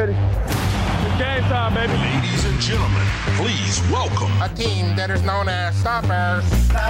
ready. It's game time, baby. Ladies and gentlemen, please welcome a team that is known as Stoppers.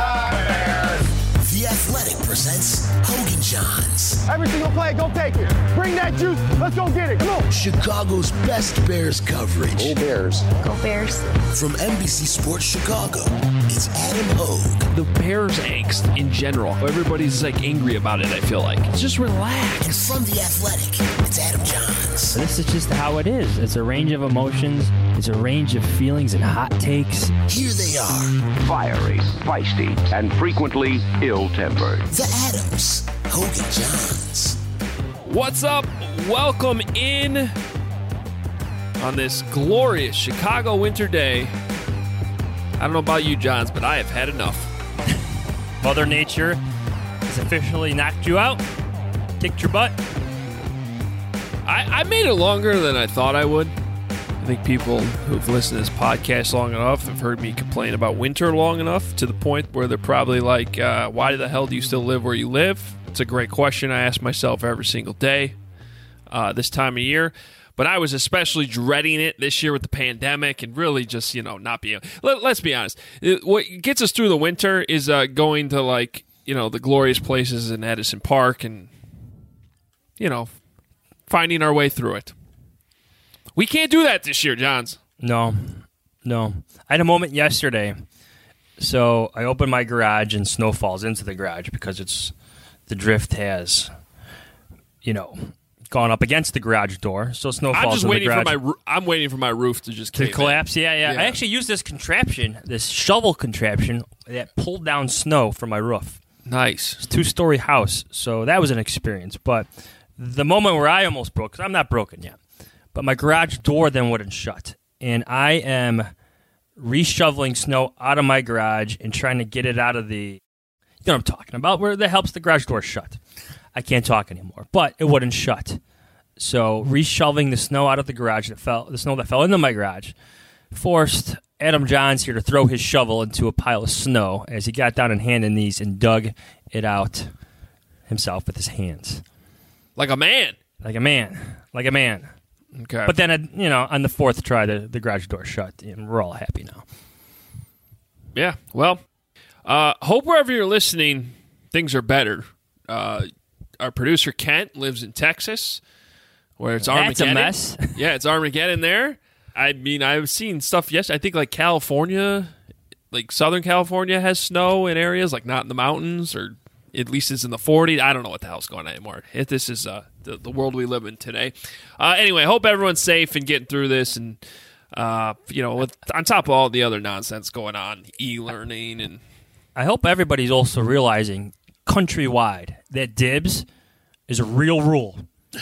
The Athletic presents Hogan Johns. Every single play, go take it. Bring that juice. Let's go get it. Come on. Chicago's best Bears coverage. Go Bears. Go Bears. From NBC Sports Chicago, it's Adam Hogue. The Bears angst in general. Everybody's like angry about it, I feel like. Just relax. And from The Athletic, it's Adam Johns. This is just how it is. It's a range of emotions. It's a range of feelings and hot takes. Here they are. Fiery, feisty, and frequently ill-tempered. The Adams. Hogan Johns. What's up? Welcome in on this glorious Chicago winter day. I don't know about you, Johns, but I have had enough. Mother Nature has officially knocked you out, kicked your butt. I made it longer than I thought I would. I think people who've listened to this podcast long enough have heard me complain about winter long enough to the point where they're probably like, why the hell do you still live where you live? It's a great question I ask myself every single day this time of year. But I was especially dreading it this year with the pandemic and really just, not being... Let's be honest. What gets us through the winter is going to, the glorious places in Edison Park and, finding our way through it. We can't do that this year, Johns. No. I had a moment yesterday. So I opened my garage and snow falls into the garage because the drift has, gone up against the garage door. So snow falls into the garage. I'm waiting for my roof to just collapse. Yeah. I actually used this contraption, this shovel contraption that pulled down snow from my roof. Nice. It's a 2-story house, so that was an experience. But the moment where I almost broke, because I'm not broken yet, but my garage door then wouldn't shut. And I am reshoveling snow out of my garage and trying to get it out of the, you know what I'm talking about, where that helps the garage door shut. I can't talk anymore, but it wouldn't shut. So reshoveling the snow out of the garage, the snow that fell into my garage, forced Adam Johns here to throw his shovel into a pile of snow as he got down on hand and knees and dug it out himself with his hands. Like a man. Okay. But then, on the fourth try, the garage door shut, and we're all happy now. Yeah, well, hope wherever you're listening, things are better. Our producer, Kent, lives in Texas, where it's Armageddon. That's a mess. Yeah, it's Armageddon there. I mean, I've seen stuff yesterday. I think, California, Southern California has snow in areas, not in the mountains, or at least it's in the 40s. I don't know what the hell's going on anymore. This is the world we live in today. Anyway, hope everyone's safe and getting through this. And, on top of all the other nonsense going on, e-learning. And I hope everybody's also realizing countrywide that dibs is a real rule.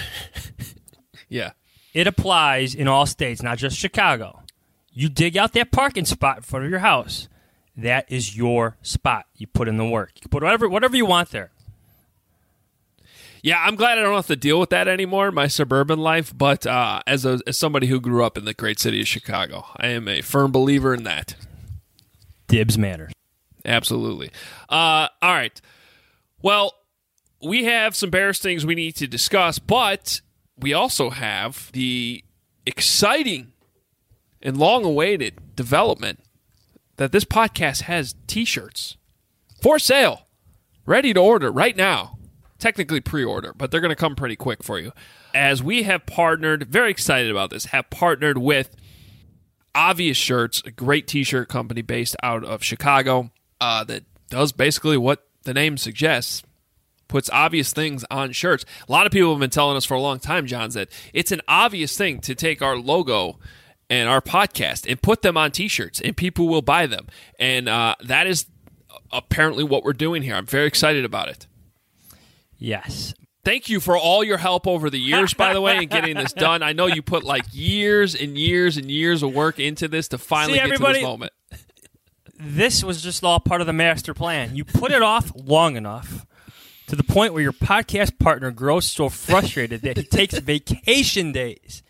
Yeah. It applies in all states, not just Chicago. You dig out that parking spot in front of your house. That is your spot. You put in the work. You can put whatever you want there. Yeah, I'm glad I don't have to deal with that anymore in my suburban life. But as somebody who grew up in the great city of Chicago, I am a firm believer in that. Dibs matter. Absolutely. All right. Well, we have some Bears things we need to discuss, but we also have the exciting and long-awaited development that this podcast has T-shirts for sale, ready to order right now. Technically pre-order, but they're going to come pretty quick for you. As we have partnered, very excited about this, have partnered with Obvious Shirts, a great T-shirt company based out of Chicago that does basically what the name suggests, puts obvious things on shirts. A lot of people have been telling us for a long time, Johns, that it's an obvious thing to take our logo and our podcast and put them on T-shirts, and people will buy them. And that is apparently what we're doing here. I'm very excited about it. Yes. Thank you for all your help over the years, by the way, in getting this done. I know you put years and years and years of work into this to finally get to this moment. This was just all part of the master plan. You put it off long enough to the point where your podcast partner grows so frustrated that he takes vacation days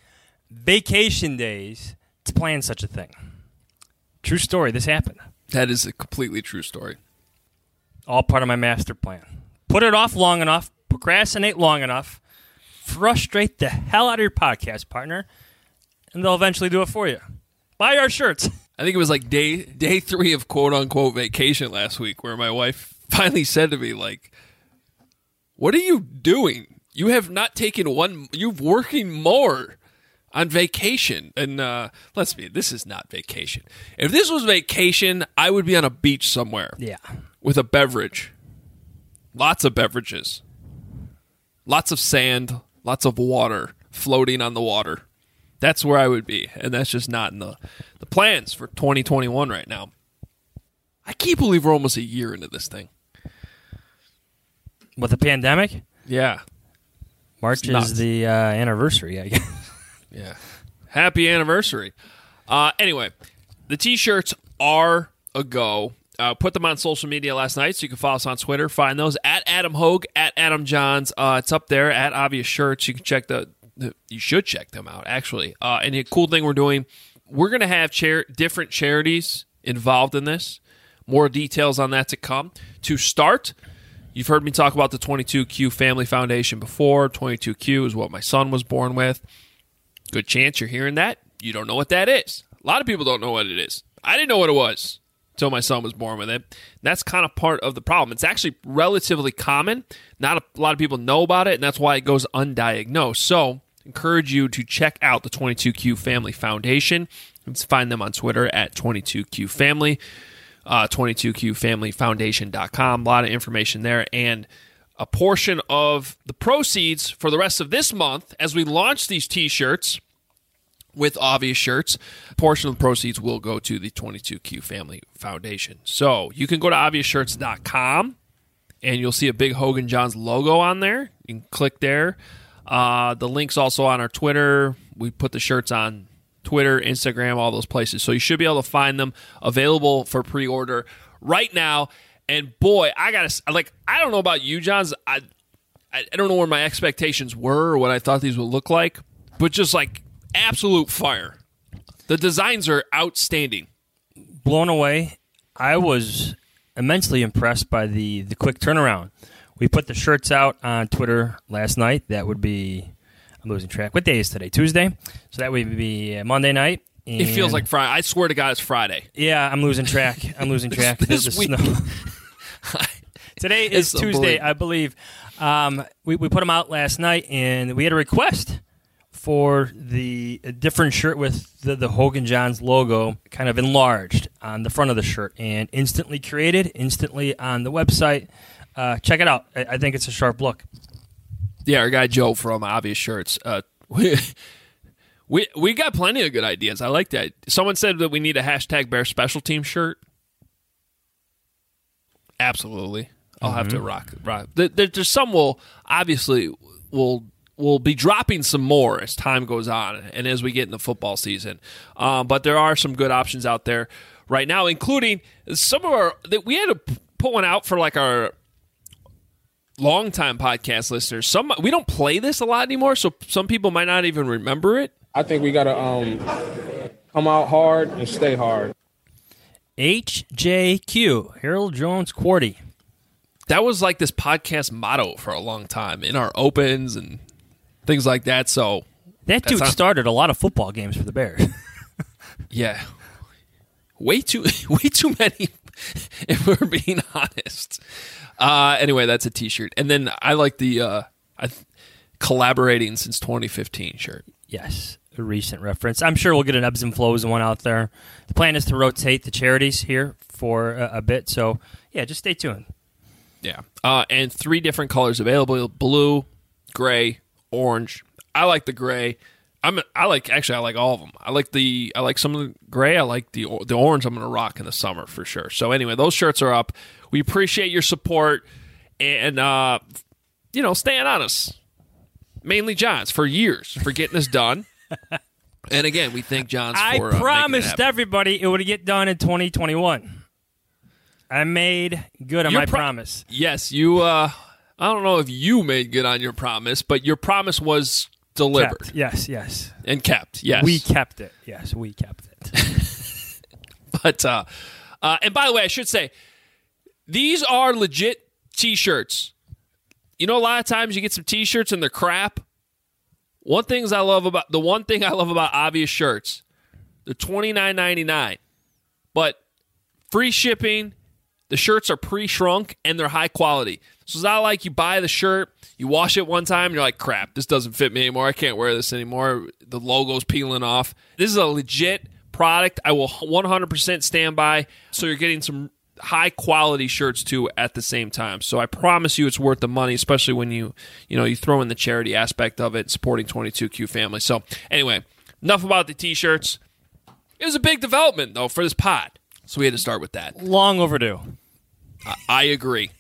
to plan such a thing. True story. This happened. That is a completely true story. All part of my master plan. Put it off long enough, procrastinate long enough, frustrate the hell out of your podcast partner, and they'll eventually do it for you. Buy our shirts. I think it was like day 3 of quote-unquote vacation last week where my wife finally said to me, like, what are you doing? You have not taken you're working more on vacation. And let's be, this is not vacation. If this was vacation, I would be on a beach somewhere. Yeah. With a beverage. Lots of beverages. Lots of sand. Lots of water floating on the water. That's where I would be. And that's just not in the plans for 2021 right now. I can't believe we're almost a year into this thing. With the pandemic? Yeah. March is the anniversary, I guess. Yeah. Happy anniversary. Anyway, the T-shirts are a go. Put them on social media last night, so you can follow us on Twitter. Find those at Adam Hogue, at Adam Johns. It's up there at Obvious Shirts. You can check you should check them out, actually. And the cool thing we're doing, we're going to have different charities involved in this. More details on that to come. To start, you've heard me talk about the 22Q Family Foundation before. 22Q is what my son was born with. Good chance you're hearing that. You don't know what that is. A lot of people don't know what it is. I didn't know what it was until my son was born with it. That's kind of part of the problem. It's actually relatively common. Not a lot of people know about it, and that's why it goes undiagnosed. So, encourage you to check out the 22Q Family Foundation. You can find them on Twitter at 22Q Family, 22QFamilyFoundation.com. A lot of information there, and a portion of the proceeds for the rest of this month, as we launch these T-shirts with Obvious Shirts, a portion of the proceeds will go to the 22Q Family Foundation. So you can go to ObviousShirts.com, and you'll see a big Hogue and Johns logo on there. You can click there. The link's also on our Twitter. We put the shirts on Twitter, Instagram, all those places. So you should be able to find them available for pre-order right now. And boy, I don't know about you, Johns. I don't know where my expectations were or what I thought these would look like, but just like absolute fire. The designs are outstanding. Blown away. I was immensely impressed by the quick turnaround. We put the shirts out on Twitter last night. That would be, I'm losing track. What day is today? Tuesday? So that would be Monday night. It feels like Friday. I swear to God, it's Friday. Yeah, I'm losing track. This week. Snow. Today is Tuesday, I believe. We put them out last night, and we had a request for a different shirt with the Hogue and Johns logo kind of enlarged on the front of the shirt, and instantly created, instantly on the website. Check it out. I think it's a sharp look. Yeah, our guy Joe from Obvious Shirts. We got plenty of good ideas. I like that. Someone said that we need a hashtag Bear Special Team shirt. Absolutely. I'll have to rock. There's some will be dropping some more as time goes on and as we get in the football season. But there are some good options out there right now, including some of our that we had to put one out for like our longtime podcast listeners. We don't play this a lot anymore, so some people might not even remember it. I think we gotta come out hard and stay hard. HJQ, Harold Jones Quarty. That was like this podcast motto for a long time in our opens and things like that. So that dude started a lot of football games for the Bears. Yeah, way too many. If we're being honest. Anyway, that's a T-shirt, and then I like the collaborating since 2015 shirt. Yes, a recent reference. I'm sure we'll get an ebbs and flows one out there. The plan is to rotate the charities here for a bit, so yeah, just stay tuned. Yeah, and 3 different colors available: blue, gray, orange. I like the gray. I like all of them. I like some of the gray. I like the orange. I'm going to rock in the summer for sure. So anyway, those shirts are up. We appreciate your support and staying on us. Mainly Johns for years for getting this done. And again, we thank Johns for I promised everybody it would get done in 2021. I made good on my promise. Yes, you. I don't know if you made good on your promise, but your promise was delivered. Kept. Yes. And kept, yes. We kept it. Yes, we kept it. But, and by the way, I should say, these are legit T-shirts. You know, a lot of times you get some T-shirts and they're crap. one thing I love about Obvious shirts, they're $29.99, but free shipping. The shirts are pre-shrunk and they're high quality. So it's not like you buy the shirt, you wash it one time, and you're like, crap, this doesn't fit me anymore. I can't wear this anymore. The logo's peeling off. This is a legit product. I will 100% stand by. So you're getting some high quality shirts too at the same time. So I promise you it's worth the money, especially when you throw in the charity aspect of it, supporting 22Q family. So anyway, enough about the t-shirts. It was a big development though for this pod. So we had to start with that. Long overdue. I agree.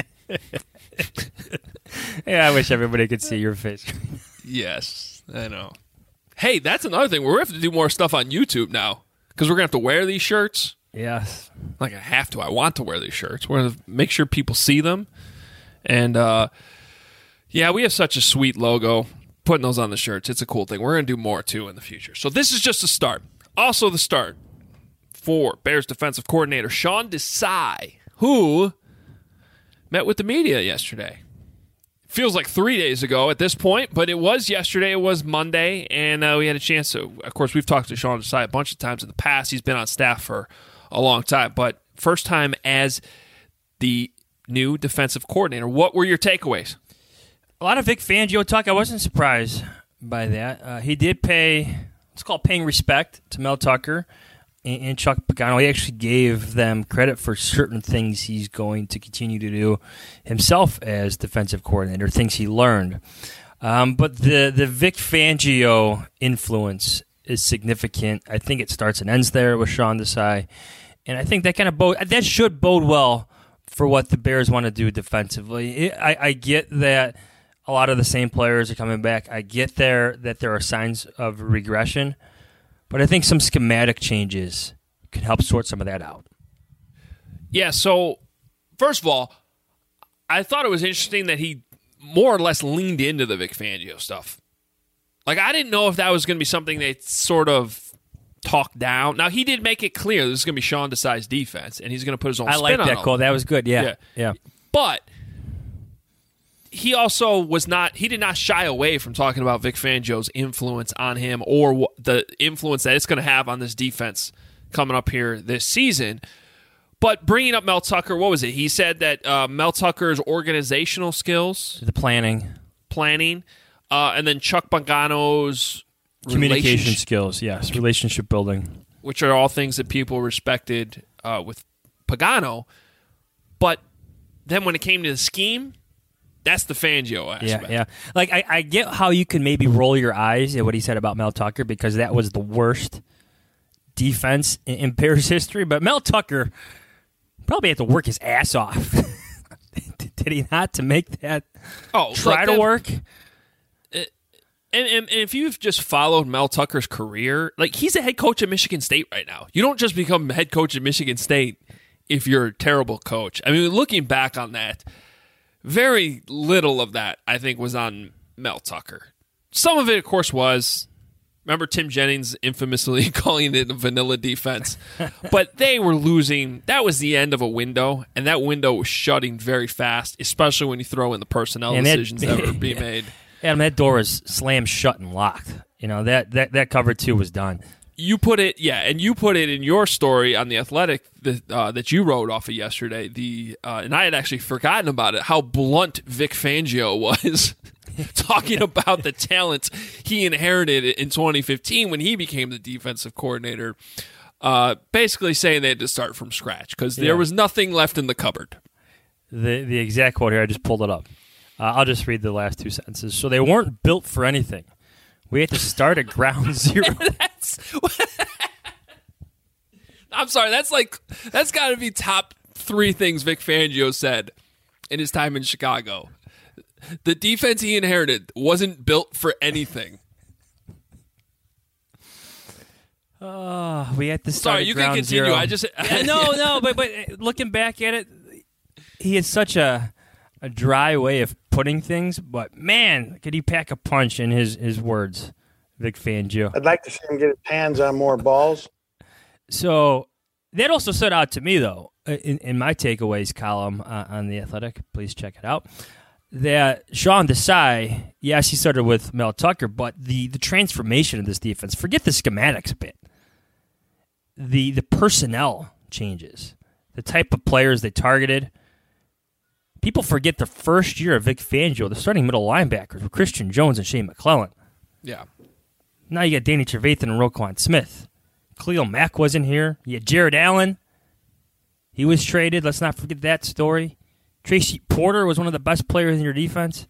Yeah, I wish everybody could see your face. Yes, I know. Hey, that's another thing. We're going to have to do more stuff on YouTube now because we're going to have to wear these shirts. Yes. Like I have to. I want to wear these shirts. We're going to make sure people see them. And, yeah, we have such a sweet logo. Putting those on the shirts, it's a cool thing. We're going to do more, too, in the future. So this is just a start. Also the start for Bears defensive coordinator Sean Desai, who met with the media yesterday. Feels like 3 days ago at this point, but it was yesterday. It was Monday, and we had a chance to, of course, we've talked to Sean Desai a bunch of times in the past. He's been on staff for a long time, but first time as the new defensive coordinator. What were your takeaways? A lot of Vic Fangio talk. I wasn't surprised by that. He did pay, it's called paying respect to Mel Tucker and Chuck Pagano. He actually gave them credit for certain things he's going to continue to do himself as defensive coordinator, things he learned. But the Vic Fangio influence is significant. I think it starts and ends there with Sean Desai. And I think that should bode well for what the Bears want to do defensively. I get that a lot of the same players are coming back. I get that there are signs of regression. But I think some schematic changes can help sort some of that out. Yeah, so first of all, I thought it was interesting that he more or less leaned into the Vic Fangio stuff. Like, I didn't know if that was going to be something they sort of talked down. Now, he did make it clear this is going to be Sean Desai's defense, and he's going to put his own spin on it. I like that call. That was good, yeah. But he also he did not shy away from talking about Vic Fangio's influence on him or the influence that it's going to have on this defense coming up here this season. But bringing up Mel Tucker, what was it? He said that Mel Tucker's organizational skills, the planning, and then Chuck Pagano's communication skills, yes, relationship building, which are all things that people respected with Pagano. But then when it came to the scheme, that's the Fangio aspect. Yeah. Like, I get how you can maybe roll your eyes at what he said about Mel Tucker because that was the worst defense in Bears history. But Mel Tucker probably had to work his ass off. Did he not, to make that to work? And if you've just followed Mel Tucker's career, like, he's a head coach at Michigan State right now. You don't just become head coach at Michigan State if you're a terrible coach. I mean, looking back on that, very little of that, I think, was on Mel Tucker. Some of it, of course, was, remember Tim Jennings infamously calling it a vanilla defense? But they were losing. That was the end of a window, and that window was shutting very fast, especially when you throw in the personnel decisions that were being made. Adam, that door was slammed shut and locked. You know, that cover two was done. You put it, and you put it in your story on The Athletic that you wrote off of yesterday. And I had actually forgotten about it, how blunt Vic Fangio was talking about the talent he inherited in 2015 when he became the defensive coordinator, basically saying they had to start from scratch because there was nothing left in the cupboard. The exact quote here, I just pulled it up. I'll just read the last two sentences. So they weren't built for anything. We had to start at ground zero. I'm sorry. That's got to be top three things Vic Fangio said in his time in Chicago. The defense he inherited wasn't built for anything. We had to start. Sorry, you can continue. Zero. I just no. But looking back at it, he has such a dry way of putting things, but man, could he pack a punch in his words, Vic Fangio. I'd like to see him get his hands on more balls. So that also stood out to me, though, in my takeaways column on The Athletic. Please check it out. that Sean Desai, yes, he started with Mel Tucker, but the transformation of this defense, forget the schematics a bit. The personnel changes, the type of players they targeted. People forget the first year of Vic Fangio, the starting middle linebackers were Christian Jones and Shane McClellan. Yeah. Now you got Danny Trevathan and Roquan Smith. Khalil Mack wasn't here. You had Jared Allen. He was traded. Let's not forget that story. Tracy Porter was one of the best players in your defense.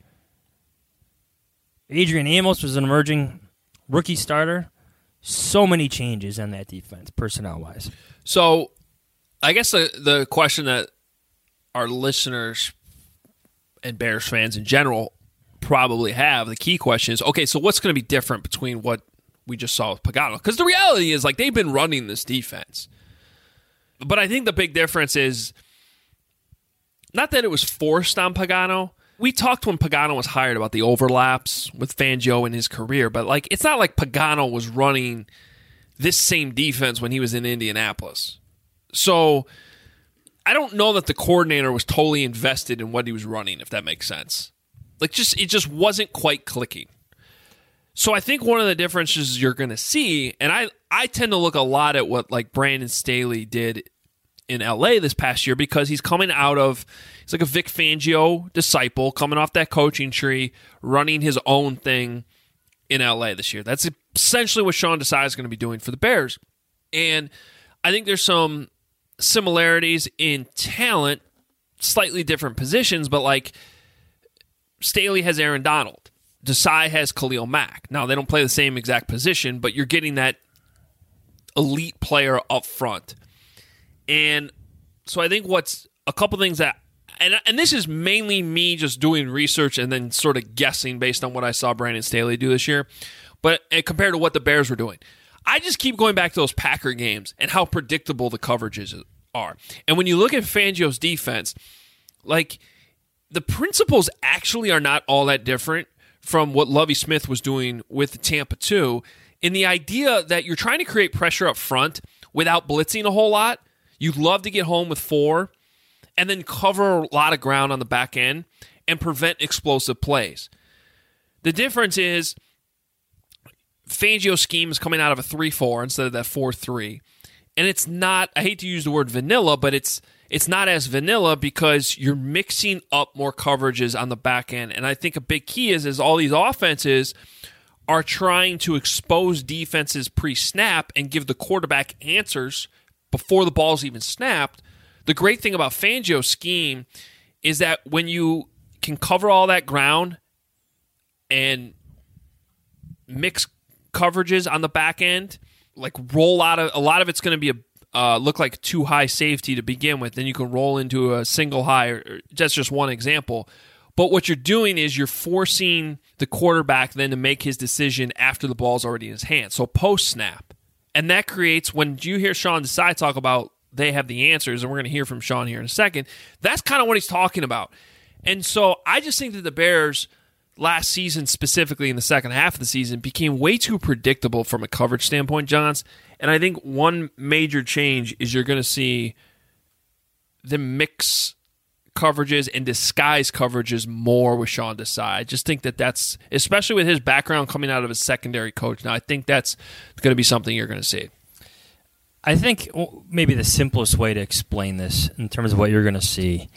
Adrian Amos was an emerging rookie starter. So many changes on that defense, personnel-wise. So I guess the question that our listeners and Bears fans in general probably have, the key question is, okay, so what's going to be different between what we just saw with Pagano? Because the reality is, like, they've been running this defense. But I think the big difference is not that it was forced on Pagano. We talked when Pagano was hired about the overlaps with Fangio in his career, but like it's not like Pagano was running this same defense when he was in Indianapolis. So I don't know that the coordinator was totally invested in what he was running, if that makes sense. Like it just wasn't quite clicking. So I think one of the differences you're going to see, and I tend to look a lot at what like Brandon Staley did in LA this past year, because he's coming out of, he's like a Vic Fangio disciple, coming off that coaching tree, running his own thing in LA this year. That's essentially what Sean Desai is going to be doing for the Bears. And I think there's some similarities in talent, slightly different positions, but like Staley has Aaron Donald. Desai has Khalil Mack. Now, they don't play the same exact position, but you're getting that elite player up front. And so I think what's a couple things that, and this is mainly me just doing research and then sort of guessing based on what I saw Brandon Staley do this year, but compared to what the Bears were doing. I just keep going back to those Packer games and how predictable the coverages are. And when you look at Fangio's defense, like the principles actually are not all that different from what Lovie Smith was doing with Tampa 2, in the idea that you're trying to create pressure up front without blitzing a whole lot. You'd love to get home with 4 and then cover a lot of ground on the back end and prevent explosive plays. The difference is Fangio's scheme is coming out of a 3-4 instead of that 4-3. And it's not, I hate to use the word vanilla, but it's not as vanilla because you're mixing up more coverages on the back end. And I think a big key is all these offenses are trying to expose defenses pre-snap and give the quarterback answers before the ball's even snapped. The great thing about Fangio's scheme is that when you can cover all that ground and mix coverages on the back end, like roll out of a lot of it's going to be look like too high safety to begin with, then you can roll into a single high. Or that's just one example. But what you're doing is you're forcing the quarterback then to make his decision after the ball's already in his hand. So post snap. And that creates, when you hear Sean Desai talk about they have the answers, and we're going to hear from Sean here in a second, that's kind of what he's talking about. And so I just think that the Bears last season, specifically in the second half of the season, became way too predictable from a coverage standpoint, Johns. And I think one major change is you're going to see them mix coverages and disguise coverages more with Sean Desai. I just think that that's, especially with his background coming out of a secondary coach now, I think that's going to be something you're going to see. I think maybe the simplest way to explain this in terms of what you're going to see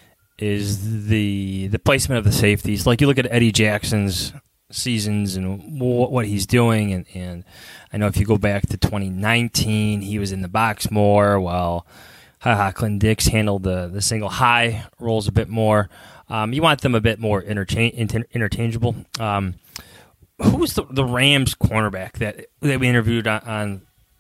is the placement of the safeties. Like you look at Eddie Jackson's seasons and what he's doing, and I know if you go back to 2019, he was in the box more while Clinton Dix handled the single high rolls a bit more. You want them a bit more interchangeable. Who's the Rams cornerback that we interviewed on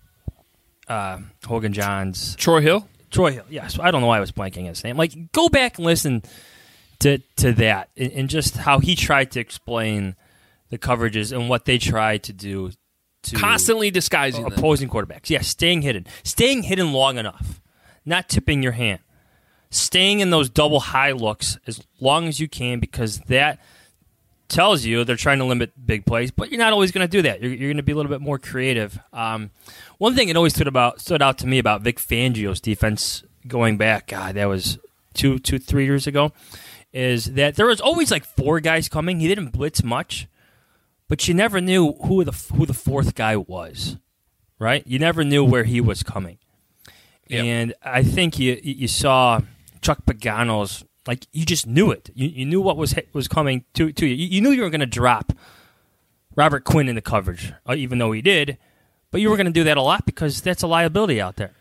Hogan John's? Troy Hill, yes. I don't know why I was blanking his name. Like, go back and listen to that and just how he tried to explain the coverages and what they tried to do to constantly disguising opposing quarterbacks. Yeah, staying hidden long enough. Not tipping your hand. Staying in those double high looks as long as you can, because that tells you they're trying to limit big plays, but you're not always going to do that. You're going to be a little bit more creative. One thing that always stood out to me about Vic Fangio's defense going back, God, that was 3 years ago, is that there was always like 4 guys coming. He didn't blitz much, but you never knew who the 4th guy was, right? You never knew where he was coming. Yep. And I think you saw Chuck Pagano's, like, you just knew it. You knew what was coming to you. You knew you were going to drop Robert Quinn in the coverage, even though he did, but you were going to do that a lot because that's a liability out there.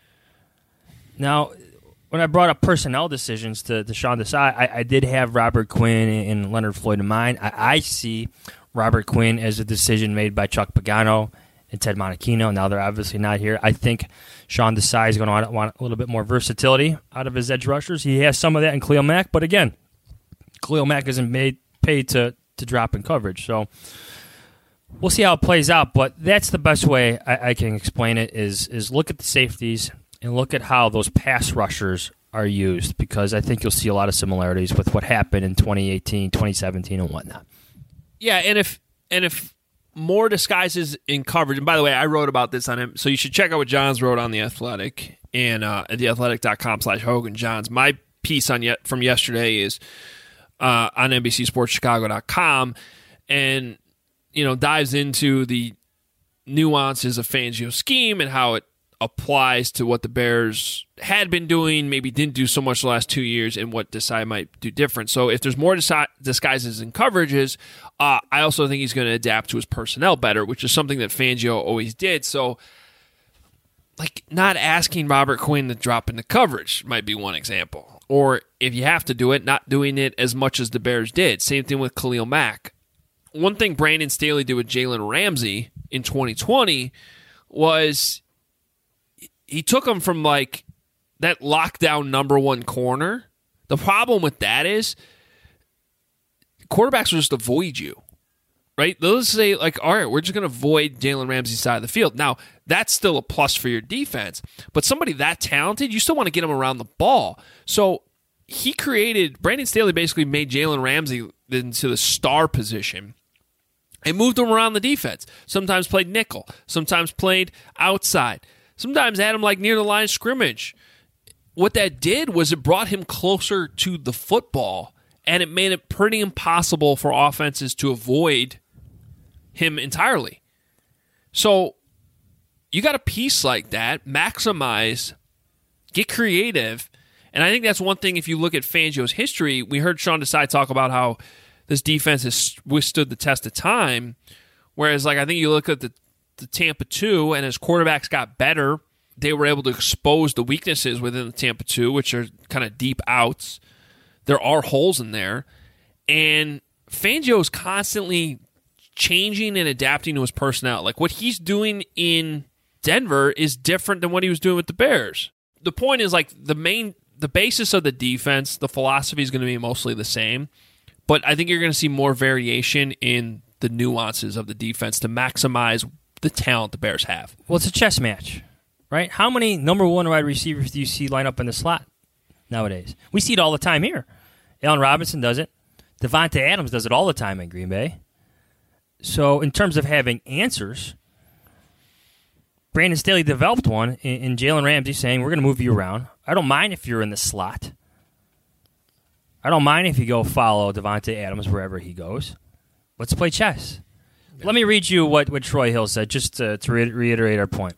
Now, when I brought up personnel decisions to Sean Desai, I did have Robert Quinn and Leonard Floyd in mind. I see Robert Quinn as a decision made by Chuck Pagano and Ted Monachino. Now they're obviously not here. I think Sean Desai is going to want a little bit more versatility out of his edge rushers. He has some of that in Khalil Mack, but again, Khalil Mack isn't paid to drop in coverage. So we'll see how it plays out, but that's the best way I can explain it is look at the safeties and look at how those pass rushers are used, because I think you'll see a lot of similarities with what happened in 2018, 2017, and whatnot. Yeah, and if more disguises in coverage, and by the way, I wrote about this on him, so you should check out what Johns wrote on The Athletic and at theathletic.com/Hogan Johns. My piece from yesterday is on NBCSportsChicago.com, and dives into the nuances of Fangio's scheme and how it applies to what the Bears had been doing, maybe didn't do so much the last 2 years, and what Desai might do different. So if there's more disguises and coverages, I also think he's going to adapt to his personnel better, which is something that Fangio always did. So, like, not asking Robert Quinn to drop into coverage might be one example. Or if you have to do it, not doing it as much as the Bears did. Same thing with Khalil Mack. One thing Brandon Staley did with Jalen Ramsey in 2020 was he took him from, like, that lockdown number 1 corner. The problem with that is quarterbacks will just avoid you, right? They'll just say, like, all right, we're just going to avoid Jalen Ramsey's side of the field. Now, that's still a plus for your defense, but somebody that talented, you still want to get him around the ball. So Brandon Staley basically made Jalen Ramsey into the star position and moved him around the defense. Sometimes played nickel, sometimes played outside. Sometimes had him like near the line of scrimmage. What that did was it brought him closer to the football, and it made it pretty impossible for offenses to avoid him entirely. So you got a piece like that, maximize, get creative, and I think that's one thing if you look at Fangio's history. We heard Sean Desai talk about how this defense has withstood the test of time, whereas like I think you look at the Tampa 2, and as quarterbacks got better, they were able to expose the weaknesses within the Tampa 2, which are kind of deep outs. There are holes in there. And Fangio is constantly changing and adapting to his personnel. Like what he's doing in Denver is different than what he was doing with the Bears. The point is like the basis of the defense, the philosophy is going to be mostly the same. But I think you're going to see more variation in the nuances of the defense to maximize the talent the Bears have. Well, it's a chess match, right? How many number 1 wide receivers do you see line up in the slot nowadays? We see it all the time here. Allen Robinson does it. Devontae Adams does it all the time in Green Bay. So in terms of having answers, Brandon Staley developed one in Jalen Ramsey saying, we're going to move you around. I don't mind if you're in the slot. I don't mind if you go follow Devontae Adams wherever he goes. Let's play chess. Let me read you what Troy Hill said, just to reiterate our point.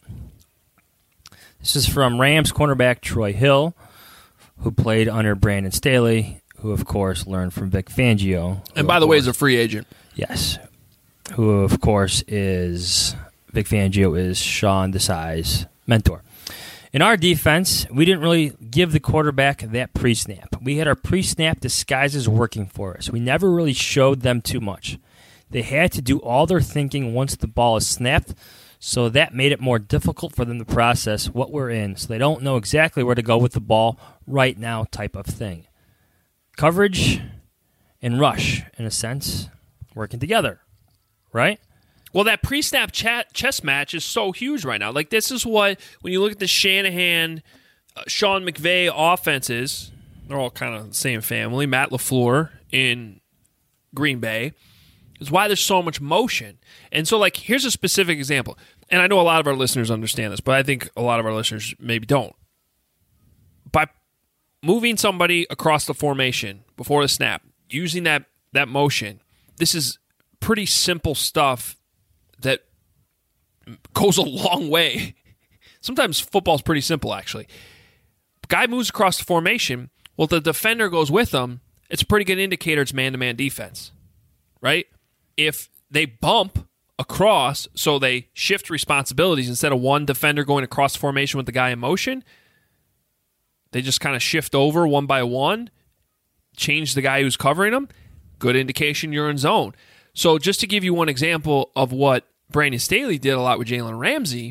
This is from Rams cornerback Troy Hill, who played under Brandon Staley, who, of course, learned from Vic Fangio. And by the way, is a free agent. Yes. Who, of course, is Vic Fangio is Sean Desai's mentor. In our defense, we didn't really give the quarterback that pre-snap. We had our pre-snap disguises working for us. We never really showed them too much. They had to do all their thinking once the ball is snapped, so that made it more difficult for them to process what we're in, so they don't know exactly where to go with the ball right now type of thing. Coverage and rush, in a sense, working together, right? Well, that pre-snap chess match is so huge right now. Like, this is what, when you look at the Shanahan, Sean McVay offenses, they're all kind of the same family. Matt LaFleur in Green Bay. Is why there's so much motion. And so, like, here's a specific example. And I know a lot of our listeners understand this, but I think a lot of our listeners maybe don't. moving somebody across the formation before the snap, using that motion, this is pretty simple stuff that goes a long way. Sometimes football's pretty simple, actually. Guy moves across the formation. Well, the defender goes with him. It's a pretty good indicator it's man-to-man defense, right? If they bump across, so they shift responsibilities instead of one defender going across the formation with the guy in motion, they just kind of shift over one by one, change the guy who's covering them. Good indication you're in zone. So just to give you one example of what Brandon Staley did a lot with Jalen Ramsey,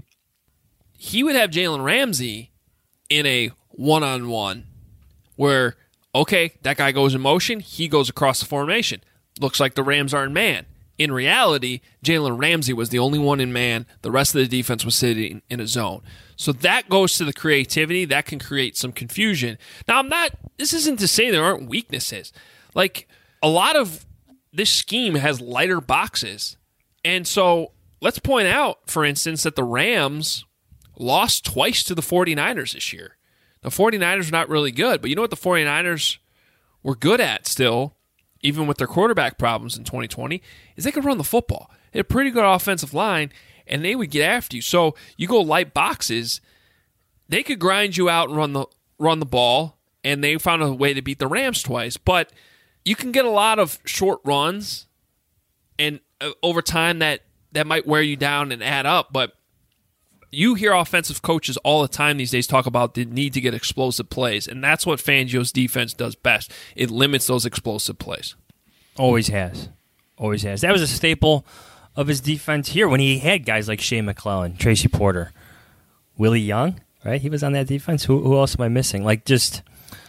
he would have Jalen Ramsey in a one-on-one where, okay, that guy goes in motion, he goes across the formation. Looks like the Rams are in man. In reality, Jalen Ramsey was the only one in man. The rest of the defense was sitting in a zone. So that goes to the creativity. That can create some confusion. Now, this isn't to say there aren't weaknesses. Like, a lot of this scheme has lighter boxes. And so let's point out, for instance, that the Rams lost twice to the 49ers this year. The 49ers are not really good, but you know what the 49ers were good at still, even with their quarterback problems in 2020, is they could run the football. They had a pretty good offensive line, and they would get after you. So you go light boxes, they could grind you out and run the ball, and they found a way to beat the Rams twice. But you can get a lot of short runs, and over time that might wear you down and add up. But you hear offensive coaches all the time these days talk about the need to get explosive plays, and that's what Fangio's defense does best. It limits those explosive plays. Always has. Always has. That was a staple of his defense here when he had guys like Shea McClellan, Tracy Porter, Willie Young, right? He was on that defense. Who else am I missing? Like, just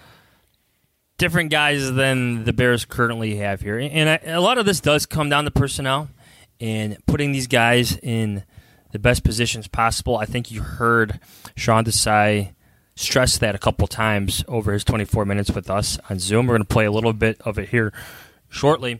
different guys than the Bears currently have here. And a lot of this does come down to personnel and putting these guys in the best positions possible. I think you heard Sean Desai stress that a couple times over his 24 minutes with us on Zoom. We're going to play a little bit of it here shortly.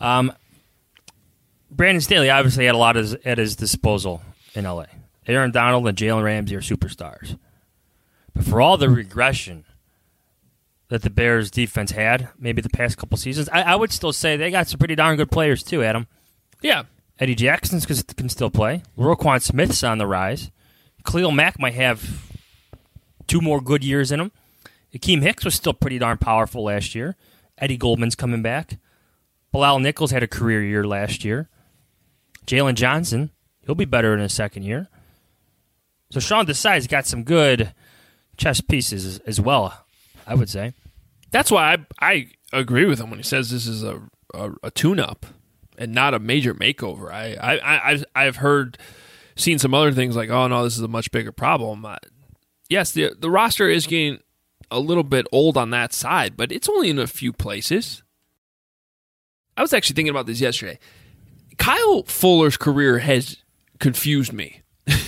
Brandon Staley obviously had a lot at his disposal in L.A. Aaron Donald and Jalen Ramsey are superstars. But for all the regression that the Bears defense had, maybe the past couple seasons, I would still say they got some pretty darn good players too, Adam. Yeah. Eddie Jackson can still play. Roquan Smith's on the rise. Khalil Mack might have 2 more good years in him. Akeem Hicks was still pretty darn powerful last year. Eddie Goldman's coming back. Bilal Nichols had a career year last year. Jalen Johnson, he'll be better in his second year. So Sean Desai's got some good chess pieces as well, I would say. That's why I agree with him when he says this is a tune-up and not a major makeover. I've seen some other things like, oh no, this is a much bigger problem. Yes, the roster is getting a little bit old on that side, but it's only in a few places. I was actually thinking about this yesterday. Kyle Fuller's career has confused me.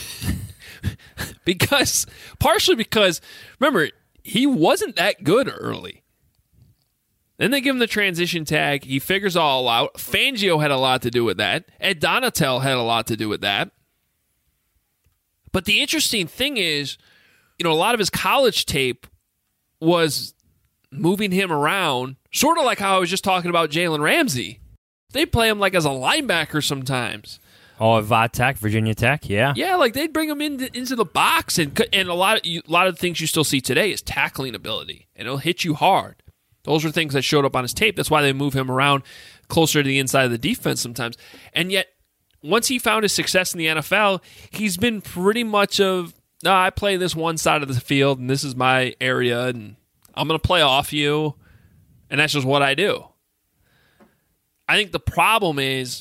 Partially because, remember, he wasn't that good early. Then they give him the transition tag. He figures it all out. Fangio had a lot to do with that. Ed Donatel had a lot to do with that. But the interesting thing is, a lot of his college tape was moving him around, sort of like how I was just talking about Jalen Ramsey. They play him like as a linebacker sometimes. Oh, at Tech, Virginia Tech, yeah. Yeah, like they'd bring him into the box, and a lot of the things you still see today is tackling ability, and it'll hit you hard. Those are things that showed up on his tape. That's why they move him around closer to the inside of the defense sometimes. And yet, once he found his success in the NFL, he's been pretty much I play this one side of the field, and this is my area, and I'm going to play off you, and that's just what I do. I think the problem is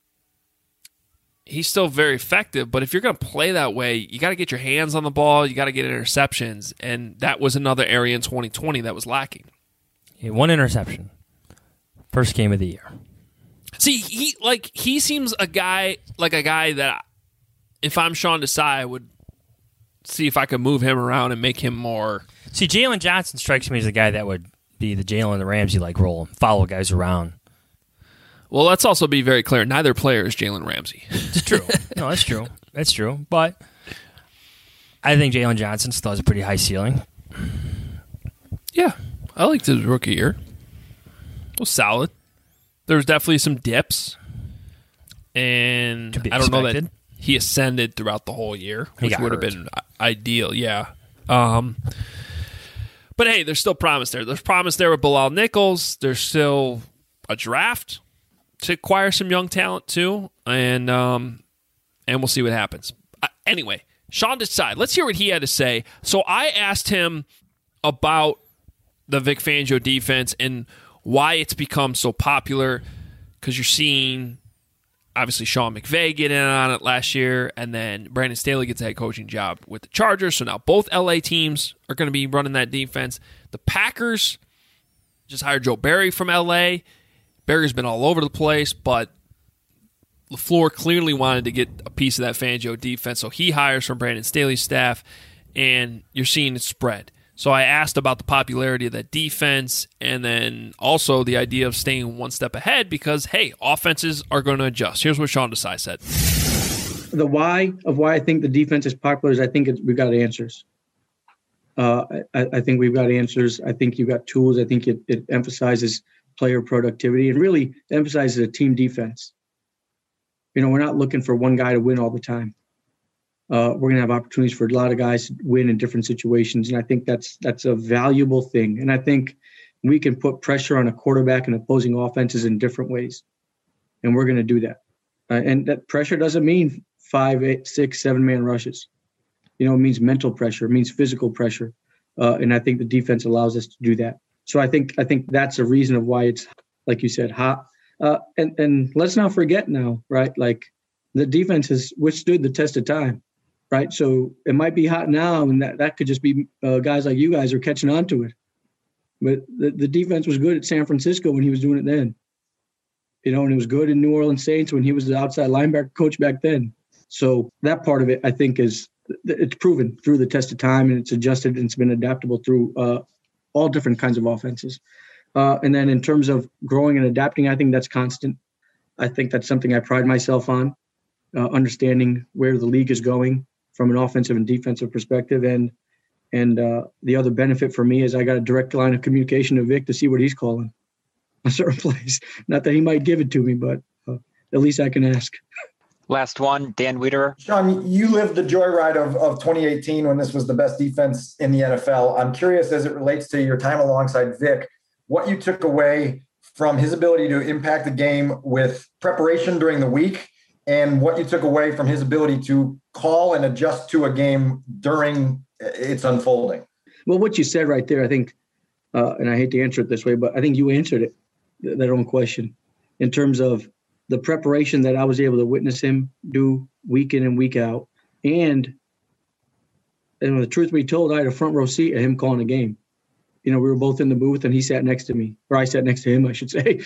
he's still very effective, but if you're going to play that way, you got to get your hands on the ball, you got to get interceptions, and that was another area in 2020 that was lacking. He had 1 interception. First game of the year. See, he seems a guy that if I'm Sean Desai, I would see if I could move him around and make him more. See, Jalen Johnson strikes me as a guy that would be the Jalen Ramsey-like role, follow guys around. Well, let's also be very clear. Neither player is Jalen Ramsey. It's true. No, that's true. That's true. But I think Jalen Johnson still has a pretty high ceiling. Yeah. I liked his rookie year. It was solid. There was definitely some dips. And I don't know that he ascended throughout the whole year, which would have been ideal, yeah. But hey, there's still promise there. There's promise there with Bilal Nichols. There's still a draft to acquire some young talent too, and we'll see what happens. Anyway, Sean Desai, let's hear what he had to say. So I asked him about the Vic Fangio defense and why it's become so popular, because you're seeing obviously Sean McVay get in on it last year, and then Brandon Staley gets a head coaching job with the Chargers, so now both LA teams are going to be running that defense. The Packers just hired Joe Barry from LA. Barry's been all over the place, but LaFleur clearly wanted to get a piece of that Fangio defense, so he hires from Brandon Staley's staff, and you're seeing it spread. So I asked about the popularity of that defense, and then also the idea of staying one step ahead because, hey, offenses are going to adjust. Here's what Sean Desai said. The why I think the defense is popular is I think we've got answers. I think we've got answers. I think you've got tools. I think it emphasizes player productivity and really emphasizes a team defense. We're not looking for one guy to win all the time. We're going to have opportunities for a lot of guys to win in different situations, and I think that's a valuable thing. And I think we can put pressure on a quarterback and opposing offenses in different ways, and we're going to do that. And that pressure doesn't mean 5, 8, 6, 7-man rushes. It means mental pressure, it means physical pressure, and I think the defense allows us to do that. So I think that's a reason of why it's, like you said, hot. And let's not forget now, right? Like the defense has withstood the test of time. Right. So it might be hot now, and that could just be guys like you guys are catching on to it. But the defense was good at San Francisco when he was doing it then. And it was good in New Orleans Saints when he was the outside linebacker coach back then. So that part of it, I think, it's proven through the test of time, and it's adjusted and it's been adaptable through all different kinds of offenses. And then in terms of growing and adapting, I think that's constant. I think that's something I pride myself on, understanding where the league is going from an offensive and defensive perspective. And the other benefit for me is I got a direct line of communication to Vic to see what he's calling a certain place. Not that he might give it to me, but at least I can ask. Last one, Dan Wiederer. Sean, you lived the joyride of 2018 when this was the best defense in the NFL. I'm curious, as it relates to your time alongside Vic, what you took away from his ability to impact the game with preparation during the week, and what you took away from his ability to call and adjust to a game during its unfolding. Well, what you said right there, I think, and I hate to answer it this way, but I think you answered it, that own question, in terms of the preparation that I was able to witness him do week in and week out. And the truth be told, I had a front row seat of him calling a game. We were both in the booth, and he sat next to me, or I sat next to him, I should say.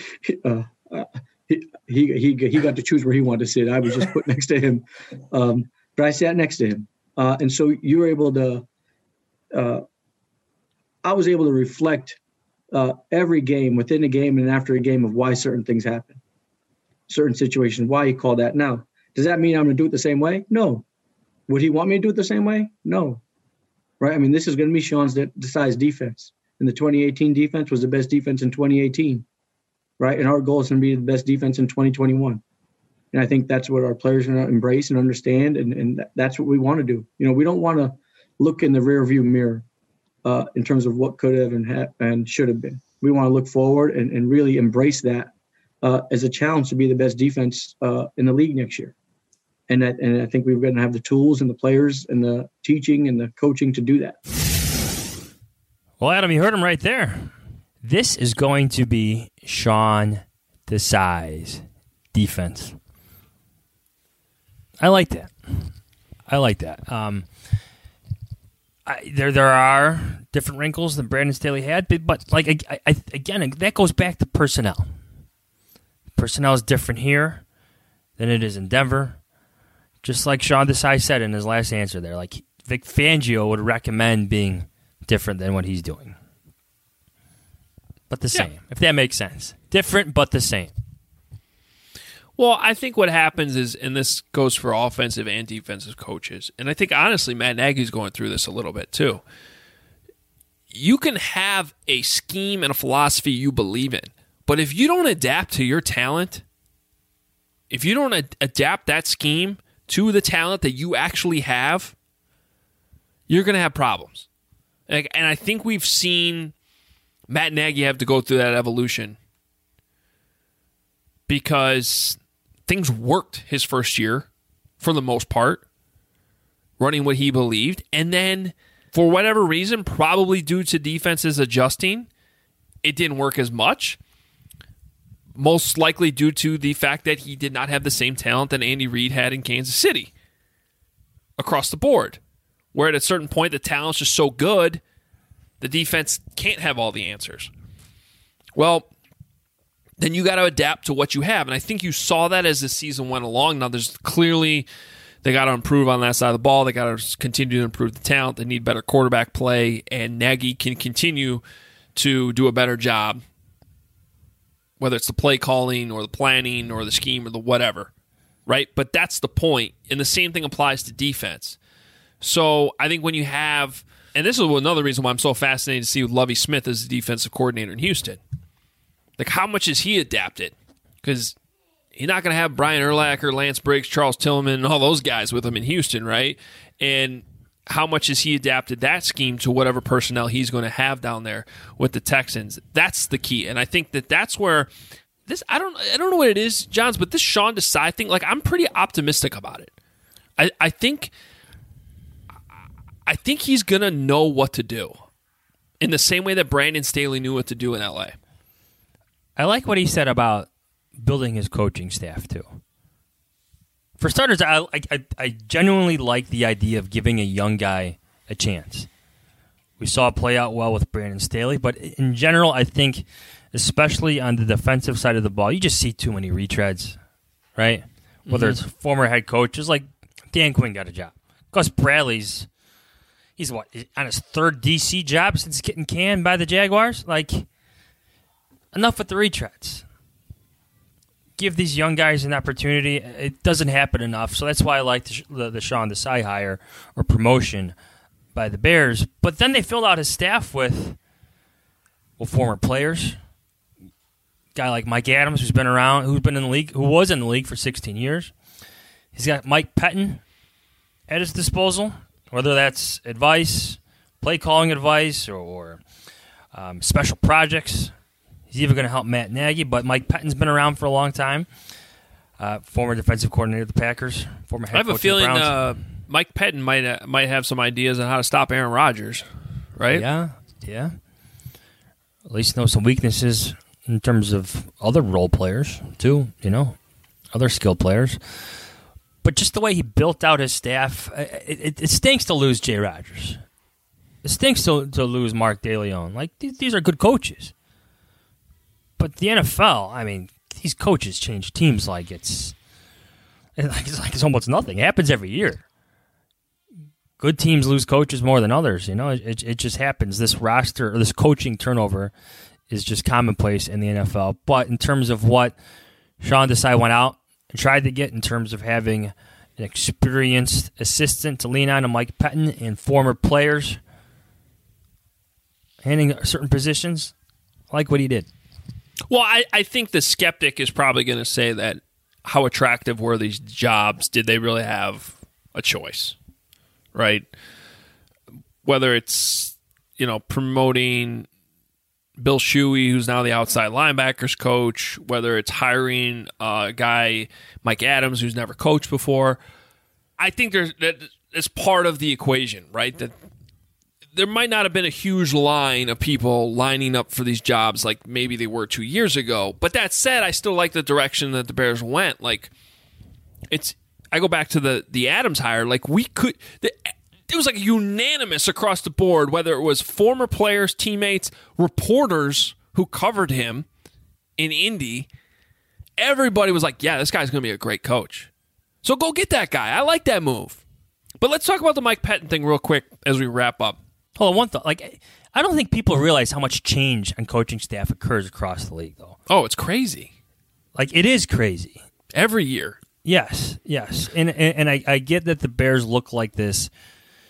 He got to choose where he wanted to sit. I was just put next to him, but I sat next to him, and so you were able to. I was able to reflect every game, within a game and after a game, of why certain things happen, certain situations, why he called that. Now, does that mean I'm going to do it the same way? No. Would he want me to do it the same way? No. Right? I mean, this is going to be Sean's Desai's defense, and the 2018 defense was the best defense in 2018. Right. And our goal is going to be the best defense in 2021. And I think that's what our players are going to embrace and understand. And that's what we want to do. We don't want to look in the rear view mirror in terms of what could have and should have been. We want to look forward and really embrace that as a challenge to be the best defense in the league next year. And I think we're going to have the tools and the players and the teaching and the coaching to do that. Well, Adam, you heard him right there. This is going to be Sean Desai's defense. I like that. There are different wrinkles than Brandon Staley had, but like again, that goes back to personnel. Personnel is different here than it is in Denver. Just like Sean Desai said in his last answer there, like Vic Fangio would recommend being different than what he's doing. But the same, if that makes sense. Different, but the same. Well, I think what happens is, and this goes for offensive and defensive coaches, and I think, honestly, Matt Nagy's going through this a little bit, too. you can have a scheme and a philosophy you believe in, but if you don't adapt to your talent, if you don't adapt that scheme to the talent that you actually have, you're going to have problems. And I think we've seen Matt Nagy have to go through that evolution because things worked his first year for the most part, running what he believed. And then for whatever reason, probably due to defenses adjusting, it didn't work as much. Most likely due to the fact that he did not have the same talent that Andy Reid had in Kansas City across the board. Where at a certain point, the talent's just so good, the defense can't have all the answers. Well, then you got to adapt to what you have. And I think you saw that as the season went along. Now, there's clearly, they got to improve on that side of the ball. They got to continue to improve the talent. They need better quarterback play. And Nagy can continue to do a better job, whether it's the play calling or the planning or the scheme or the whatever, right? But that's the point. And the same thing applies to defense. So I think when you have, and this is another reason why I'm so fascinated to see Lovie Smith as the defensive coordinator in Houston. Like, how much has he adapted? Because he's not going to have Brian Urlacher, Lance Briggs, Charles Tillman, and all those guys with him in Houston, right? And how much has he adapted that scheme to whatever personnel he's going to have down there with the Texans? That's the key. And I think that that's where this, I don't know what it is, Johns, but this Sean Desai thing, like, I'm pretty optimistic about it. I think he's going to know what to do in the same way that Brandon Staley knew what to do in LA. I like what he said about building his coaching staff, too. For starters, I genuinely like the idea of giving a young guy a chance. We saw it play out well with Brandon Staley, but in general, I think, especially on the defensive side of the ball, you just see too many retreads, right? Whether it's former head coaches, like Dan Quinn got a job. Gus Bradley's, he's on his third DC job since getting canned by the Jaguars? Like, enough with the retreads. Give these young guys an opportunity. It doesn't happen enough, so that's why I like the Sean Desai hire or promotion by the Bears. But then they filled out his staff with, well, former players. Guy like Mike Adams, who's been around, who's been in the league, who was in the league for 16 years. He's got Mike Pettin at his disposal, whether that's advice, play calling advice, or special projects. He's even going to help Matt Nagy, but Mike Pettin's been around for a long time. Former defensive coordinator of the Packers, former head coach of the Browns. I have a feeling Mike Pettin might have some ideas on how to stop Aaron Rodgers, right? Yeah. At least know some weaknesses in terms of other role players, too, other skilled players. But just the way he built out his staff, it stinks to lose Jay Rodgers. It stinks to lose Mark DeLeon. Like, these are good coaches. But the NFL, I mean, these coaches change teams like it's almost nothing. It happens every year. Good teams lose coaches more than others. It just happens. This roster or this coaching turnover is just commonplace in the NFL. But in terms of what Sean Desai went out and tried to get in terms of having an experienced assistant to lean on, Mike Pettin, and former players handing certain positions, I like what he did. Well, I think the skeptic is probably going to say that how attractive were these jobs? Did they really have a choice, right? Whether it's, promoting Bill Shuey, who's now the outside linebackers coach, whether it's hiring a guy, Mike Adams, who's never coached before. I think it's part of the equation, right? That there might not have been a huge line of people lining up for these jobs like maybe they were 2 years ago. But that said, I still like the direction that the Bears went. Like, I go back to the Adams hire. Like, it was like unanimous across the board, whether it was former players, teammates, reporters who covered him in Indy. Everybody was like, yeah, this guy's going to be a great coach. So go get that guy. I like that move. But let's talk about the Mike Pettin thing real quick as we wrap up. Hold on, one thought. Like, I don't think people realize how much change on coaching staff occurs across the league, though. Oh, it's crazy. Like, it is crazy. Every year. Yes. And I get that the Bears look like this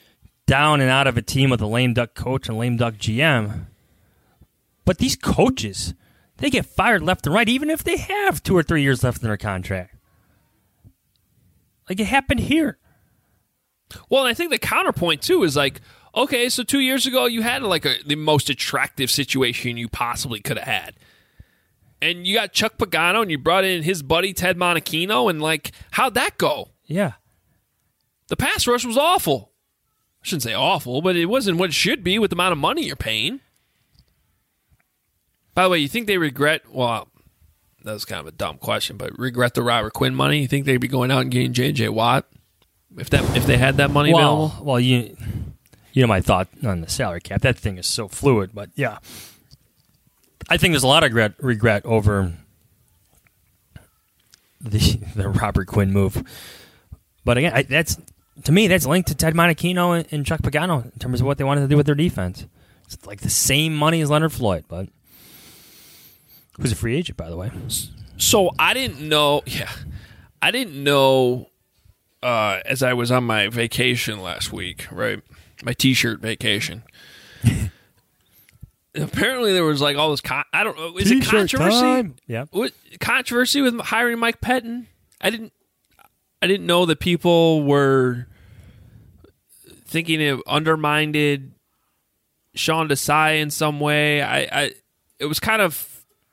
down and out of a team with a lame duck coach and lame duck GM. But these coaches, they get fired left and right, even if they have 2 or 3 years left in their contract. Like, it happened here. Well, and I think the counterpoint, too, is like, okay, so 2 years ago you had like the most attractive situation you possibly could have had. And you got Chuck Pagano and you brought in his buddy Ted Monachino, and like, how'd that go? Yeah. The pass rush was awful. I shouldn't say awful, but it wasn't what it should be with the amount of money you're paying. By the way, you think they regret, well, that was kind of a dumb question, but regret the Robert Quinn money? You think they'd be going out and getting J.J. Watt if they had that money available? Well, you know my thought on the salary cap. That thing is so fluid, but yeah. I think there's a lot of regret over the Robert Quinn move. But again, to me, that's linked to Ted Monachino and Chuck Pagano in terms of what they wanted to do with their defense. It's like the same money as Leonard Floyd, but who's a free agent, by the way. So I didn't know. Yeah, I didn't know. As I was on my vacation last week, right? My T-shirt vacation. Apparently, there was like all this. I don't know. Is it controversy? Time. Yeah. What controversy with hiring Mike Pettin? I didn't know that people were thinking it undermined Sean Desai in some way. It was kind of.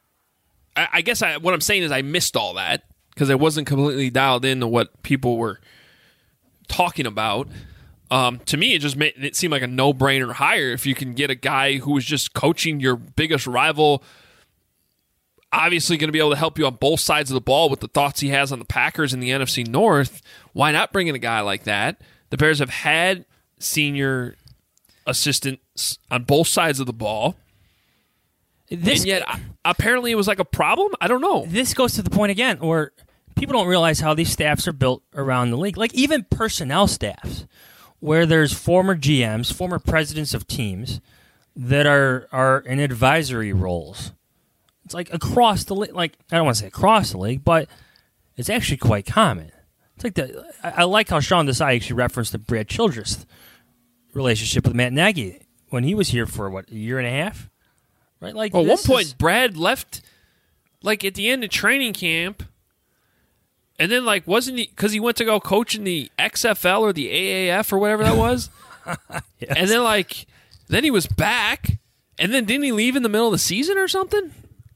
I guess what I'm saying is I missed all that because I wasn't completely dialed into what people were talking about. To me, it just made it seem like a no-brainer hire if you can get a guy who was just coaching your biggest rival, obviously going to be able to help you on both sides of the ball with the thoughts he has on the Packers in the NFC North. Why not bring in a guy like that? The Bears have had senior assistants on both sides of the ball. And yet, apparently it was like a problem? I don't know. This goes to the point again where people don't realize how these staffs are built around the league. Like even personnel staffs, where there's former GMs, former presidents of teams that are in advisory roles. It's like across the league. Like I don't want to say across the league, but it's actually quite common. It's like I like how Sean Desai actually referenced the Brad Childress relationship with Matt Nagy when he was here for a year and a half. Right, like at one point, Brad left, like at the end of training camp, and then like wasn't he because he went to go coach in the XFL or the AAF or whatever that was, yes. And then he was back, and then didn't he leave in the middle of the season or something?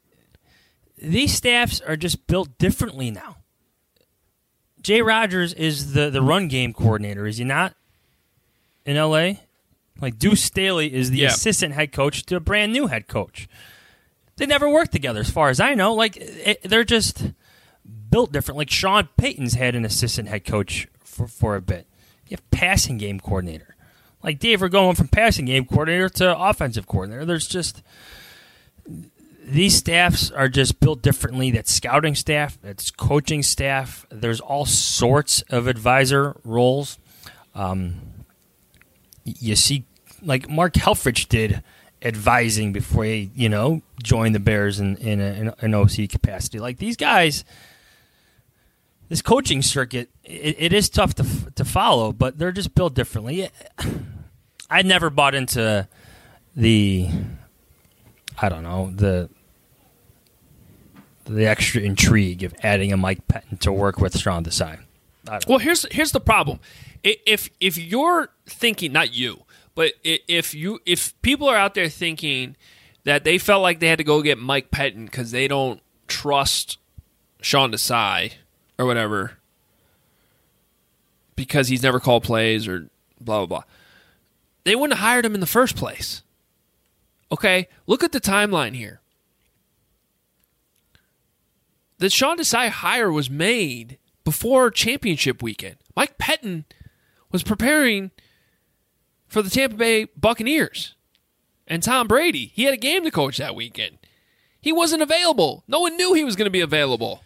These staffs are just built differently now. Jay Rodgers is the run game coordinator, is he not? In LA. Like Deuce Staley is the assistant head coach to a brand new head coach. They never worked together, as far as I know. Like they're just built different. Like Sean Payton's had an assistant head coach for a bit. You have passing game coordinator. Like Dave, we're going from passing game coordinator to offensive coordinator. There's just these staffs are just built differently. That's scouting staff. That's coaching staff. There's all sorts of advisor roles. You see, like Mark Helfrich did advising before he, joined the Bears in an OC capacity. Like these guys, this coaching circuit, it is tough to follow, but they're just built differently. I never bought into the extra intrigue of adding a Mike Pettin to work with Sean Desai. Well, here's the problem. If you're thinking, not you, but if people are out there thinking that they felt like they had to go get Mike Pettin because they don't trust Sean Desai or whatever because he's never called plays or blah, blah, blah, they wouldn't have hired him in the first place. Okay? Look at the timeline here. The Sean Desai hire was made before championship weekend. Mike Pettin was preparing for the Tampa Bay Buccaneers and Tom Brady. He had a game to coach that weekend. He wasn't available. No one knew he was going to be available.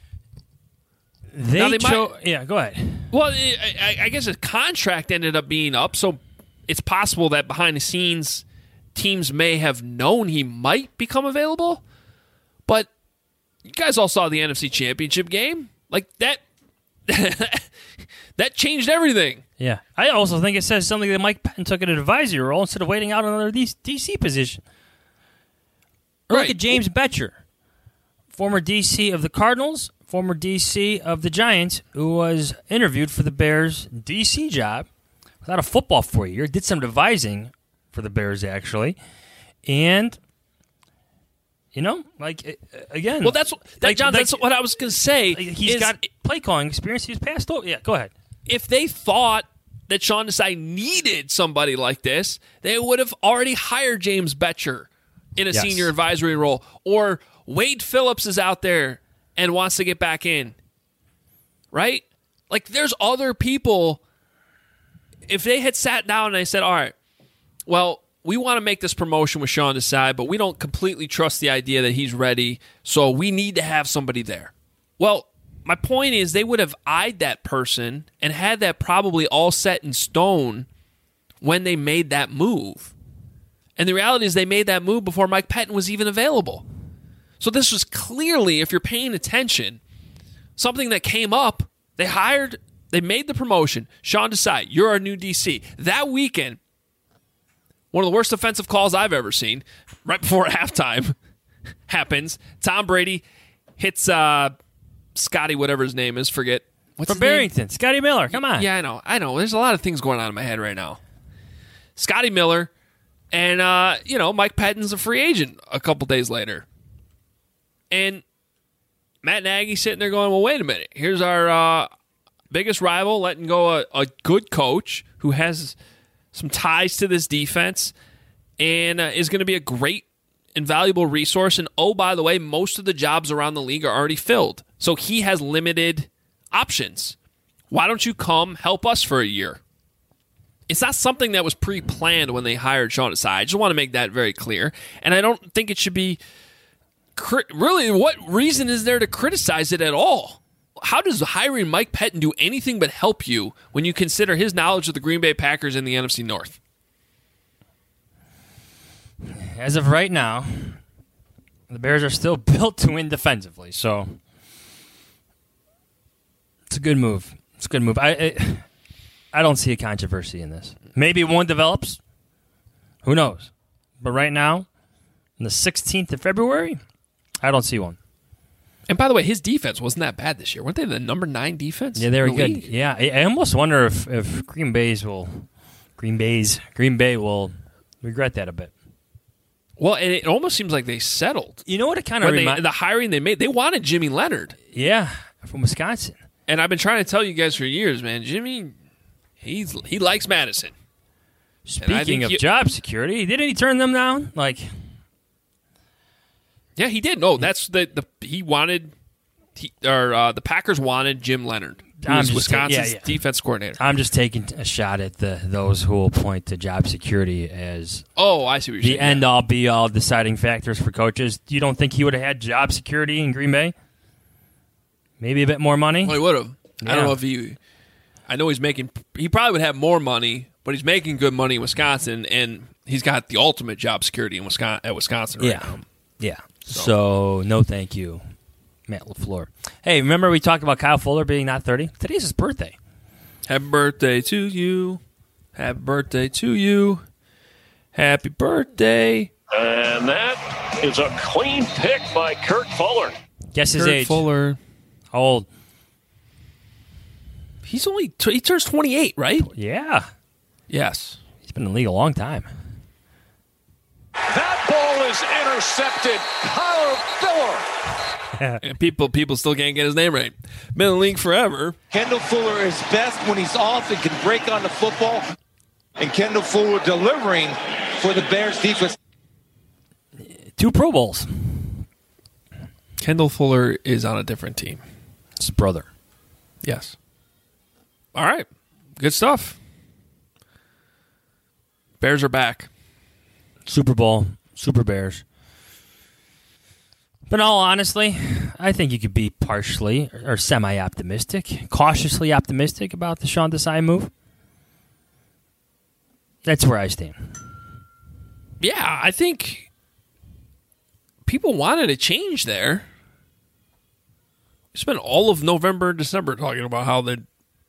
Yeah, go ahead. Well, I guess his contract ended up being up, so it's possible that behind the scenes, teams may have known he might become available. But you guys all saw the NFC Championship game. Like that that changed everything. Yeah. I also think it says something that Mike Patton took an advisory role instead of waiting out another DC position. Or look at James Betcher, former DC of the Cardinals, former DC of the Giants, who was interviewed for the Bears' DC job without a football for a year, did some devising for the Bears, actually. And, again. Well, that's what I was going to say. He's got play calling experience. He's passed over. Yeah, go ahead. If they thought that Sean Desai needed somebody like this, they would have already hired James Betcher in a senior advisory role. Or Wade Phillips is out there and wants to get back in. Right? Like, there's other people. If they had sat down and they said, all right, well, we want to make this promotion with Sean Desai, but we don't completely trust the idea that he's ready, so we need to have somebody there. Well, my point is they would have eyed that person and had that probably all set in stone when they made that move. And the reality is they made that move before Mike Patton was even available. So this was clearly, if you're paying attention, something that came up. They made the promotion. Sean Desai, you're our new DC. That weekend, one of the worst offensive calls I've ever seen, right before halftime, happens. Tom Brady hits Scotty, whatever his name is, forget. What's From Barrington, Scotty Miller, come on. Yeah, I know. There's a lot of things going on in my head right now. Scotty Miller, and, Mike Patton's a free agent a couple days later. And Matt Nagy sitting there going, well, wait a minute. Here's our biggest rival letting go a good coach who has some ties to this defense and is going to be a great and valuable resource. And, oh, by the way, most of the jobs around the league are already filled. So he has limited options. Why don't you come help us for a year? It's not something that was pre-planned when they hired Sean Desai. I just want to make that very clear. And I don't think it should be really, what reason is there to criticize it at all? How does hiring Mike Patton do anything but help you when you consider his knowledge of the Green Bay Packers in the NFC North? As of right now, the Bears are still built to win defensively, so it's a good move. It's a good move. I don't see a controversy in this. Maybe one develops. Who knows? But right now, on the 16th of February, I don't see one. And by the way, his defense wasn't that bad this year. Weren't they the number 9 defense? Yeah, they were good. League? Yeah, I almost wonder if Green Bay will regret that a bit. Well, and it almost seems like they settled. You know what it kind of reminds? The hiring they made, they wanted Jimmy Leonard. Yeah, from Wisconsin. And I've been trying to tell you guys for years, man, Jimmy, he likes Madison. Speaking of job security, didn't he turn them down? Yeah, he did. No, that's the Packers wanted Jim Leonard, who was Wisconsin's defense coordinator. I'm just taking a shot at those who will point to job security as I see what you're saying. The end-all, be-all deciding factors for coaches. You don't think he would have had job security in Green Bay? Maybe a bit more money? Well, he would have. Yeah. I don't know if I know he probably would have more money, but he's making good money in Wisconsin, and he's got the ultimate job security in Wisconsin right now. Yeah. So, no thank you, Matt LaFleur. Hey, remember we talked about Kyle Fuller being not 30? Today's his birthday. Happy birthday to you. Happy birthday to you. Happy birthday. And that is a clean pick by Kurt Fuller. Guess his age. Fuller. How old? He turns 28, right? Yeah. Yes. He's been in the league a long time. That ball is intercepted. Kyle Fuller. And people still can't get his name right. Been in the league forever. Kendall Fuller is best when he's off and can break on the football. And Kendall Fuller delivering for the Bears defense. 2 Pro Bowls. Kendall Fuller is on a different team. His brother. Yes. All right. Good stuff. Bears are back. Super Bowl, Super Bears. But in all honestly, I think you could be partially or semi-optimistic, cautiously optimistic about the Sean Desai move. That's where I stand. Yeah, I think people wanted a change there. spent all of November and December talking about how they.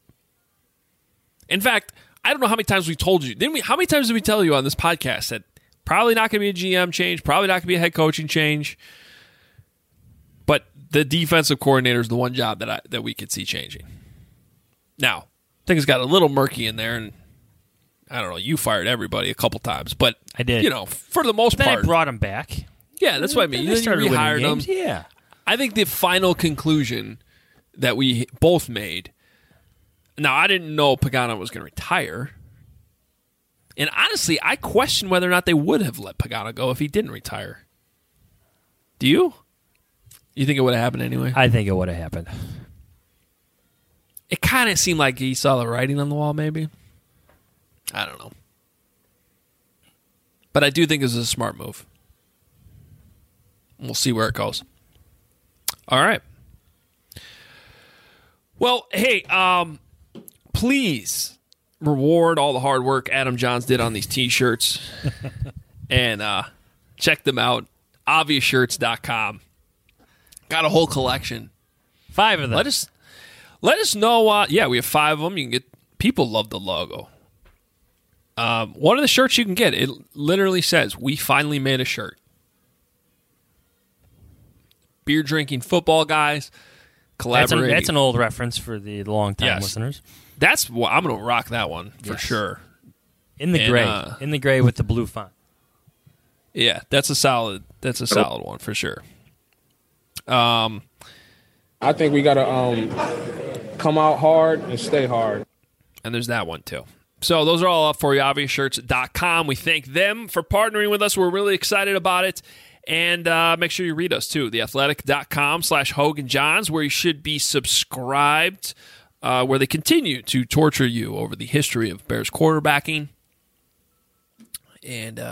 In fact, I don't know how many times we told you. How many times did we tell you on this podcast that probably not going to be a GM change, probably not going to be a head coaching change, but the defensive coordinator is the one job that we could see changing. Now, things got a little murky in there, and I don't know. You fired everybody a couple times, but I did. For the most part, I brought him back. Yeah, that's what I mean. You rehired them. Yeah. I think the final conclusion that we both made. Now, I didn't know Pagano was going to retire, and honestly, I question whether or not they would have let Pagano go if he didn't retire. Do you? You think it would have happened anyway? I think it would have happened. It kind of seemed like he saw the writing on the wall, maybe. I don't know. But I do think this is a smart move. We'll see where it goes. All right. Well, hey, please reward all the hard work Adam Johns did on these T-shirts. And check them out. ObviousShirts.com. Got a whole collection. 5 of them. Let us know. Yeah, we have 5 of them. You can get. People love the logo. One of the shirts you can get, it literally says, "We finally made a shirt." Beer drinking football guys collaborating. That's an old reference for the long-time listeners. I'm going to rock that one for sure. In the gray. In the gray with the blue font. Yeah, that's a solid one for sure. I think we got to come out hard and stay hard. And there's that one too. So those are all up for you, ObviousShirts.com. We thank them for partnering with us. We're really excited about it. And make sure you read us too, theathletic.com/HoganJohns, where you should be subscribed, where they continue to torture you over the history of Bears quarterbacking. And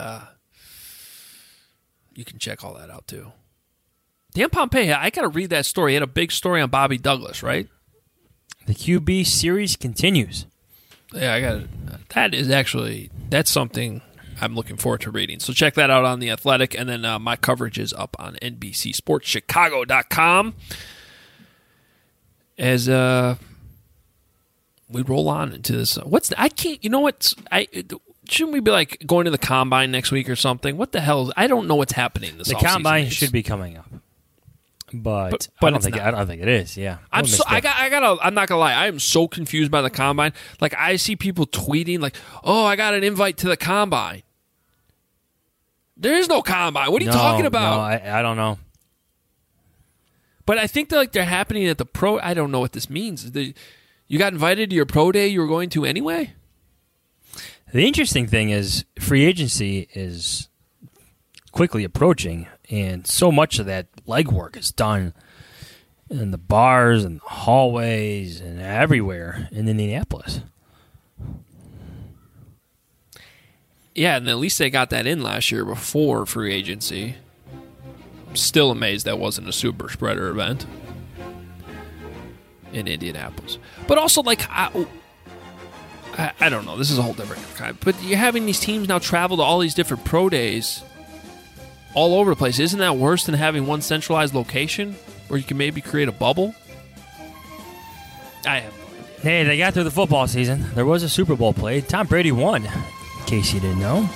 you can check all that out too. Dan Pompei, I got to read that story. He had a big story on Bobby Douglas, right? The QB series continues. Yeah, that's something I'm looking forward to reading. So check that out on The Athletic, and then my coverage is up on NBCSportsChicago.com as we roll on into this. Shouldn't we be like going to the Combine next week or something? What the hell? I don't know what's happening this offseason. The Combine should be coming up. But I don't think it is. Yeah, I'm not gonna lie. I am so confused by the Combine. Like, I see people tweeting like, "Oh, I got an invite to the Combine." There is no Combine. What are you talking about? No, I don't know. But I think they're happening at the pro. I don't know what this means. You got invited to your pro day you were going to anyway. The interesting thing is free agency is quickly approaching, and so much of that legwork is done in the bars and the hallways and everywhere in Indianapolis. Yeah, and at least they got that in last year before free agency. I'm still amazed that wasn't a super spreader event in Indianapolis. But also, like, I don't know. This is a whole different kind. But you're having these teams now travel to all these different pro days all over the place. Isn't that worse than having one centralized location where you can maybe create a bubble? I have no idea. Hey, they got through the football season. There was a Super Bowl played. Tom Brady won, in case you didn't know.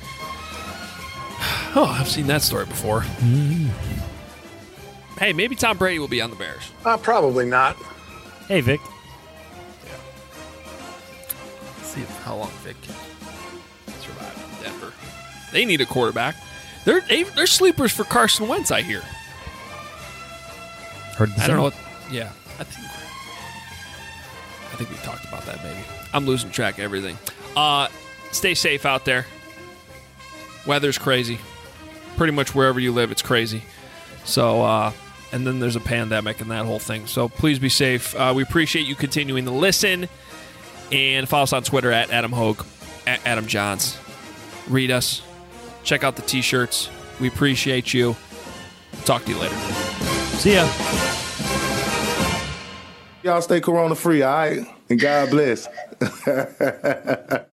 Oh, I've seen that story before. Mm-hmm. Hey, maybe Tom Brady will be on the Bears. Probably not. Hey, Vic. Yeah. Let's see how long Vic can survive in Denver. They need a quarterback. They're sleepers for Carson Wentz, I hear. Heard the I don't know what. Yeah, I think we talked about that. Maybe I'm losing track of everything. Stay safe out there. Weather's crazy. Pretty much wherever you live, it's crazy. So, and then there's a pandemic and that whole thing. So please be safe. We appreciate you continuing to listen, and follow us on Twitter at Adam Hogue, at Adam Johns. Read us. Check out the T-shirts. We appreciate you. Talk to you later. See ya. Y'all stay corona free, all right? And God bless.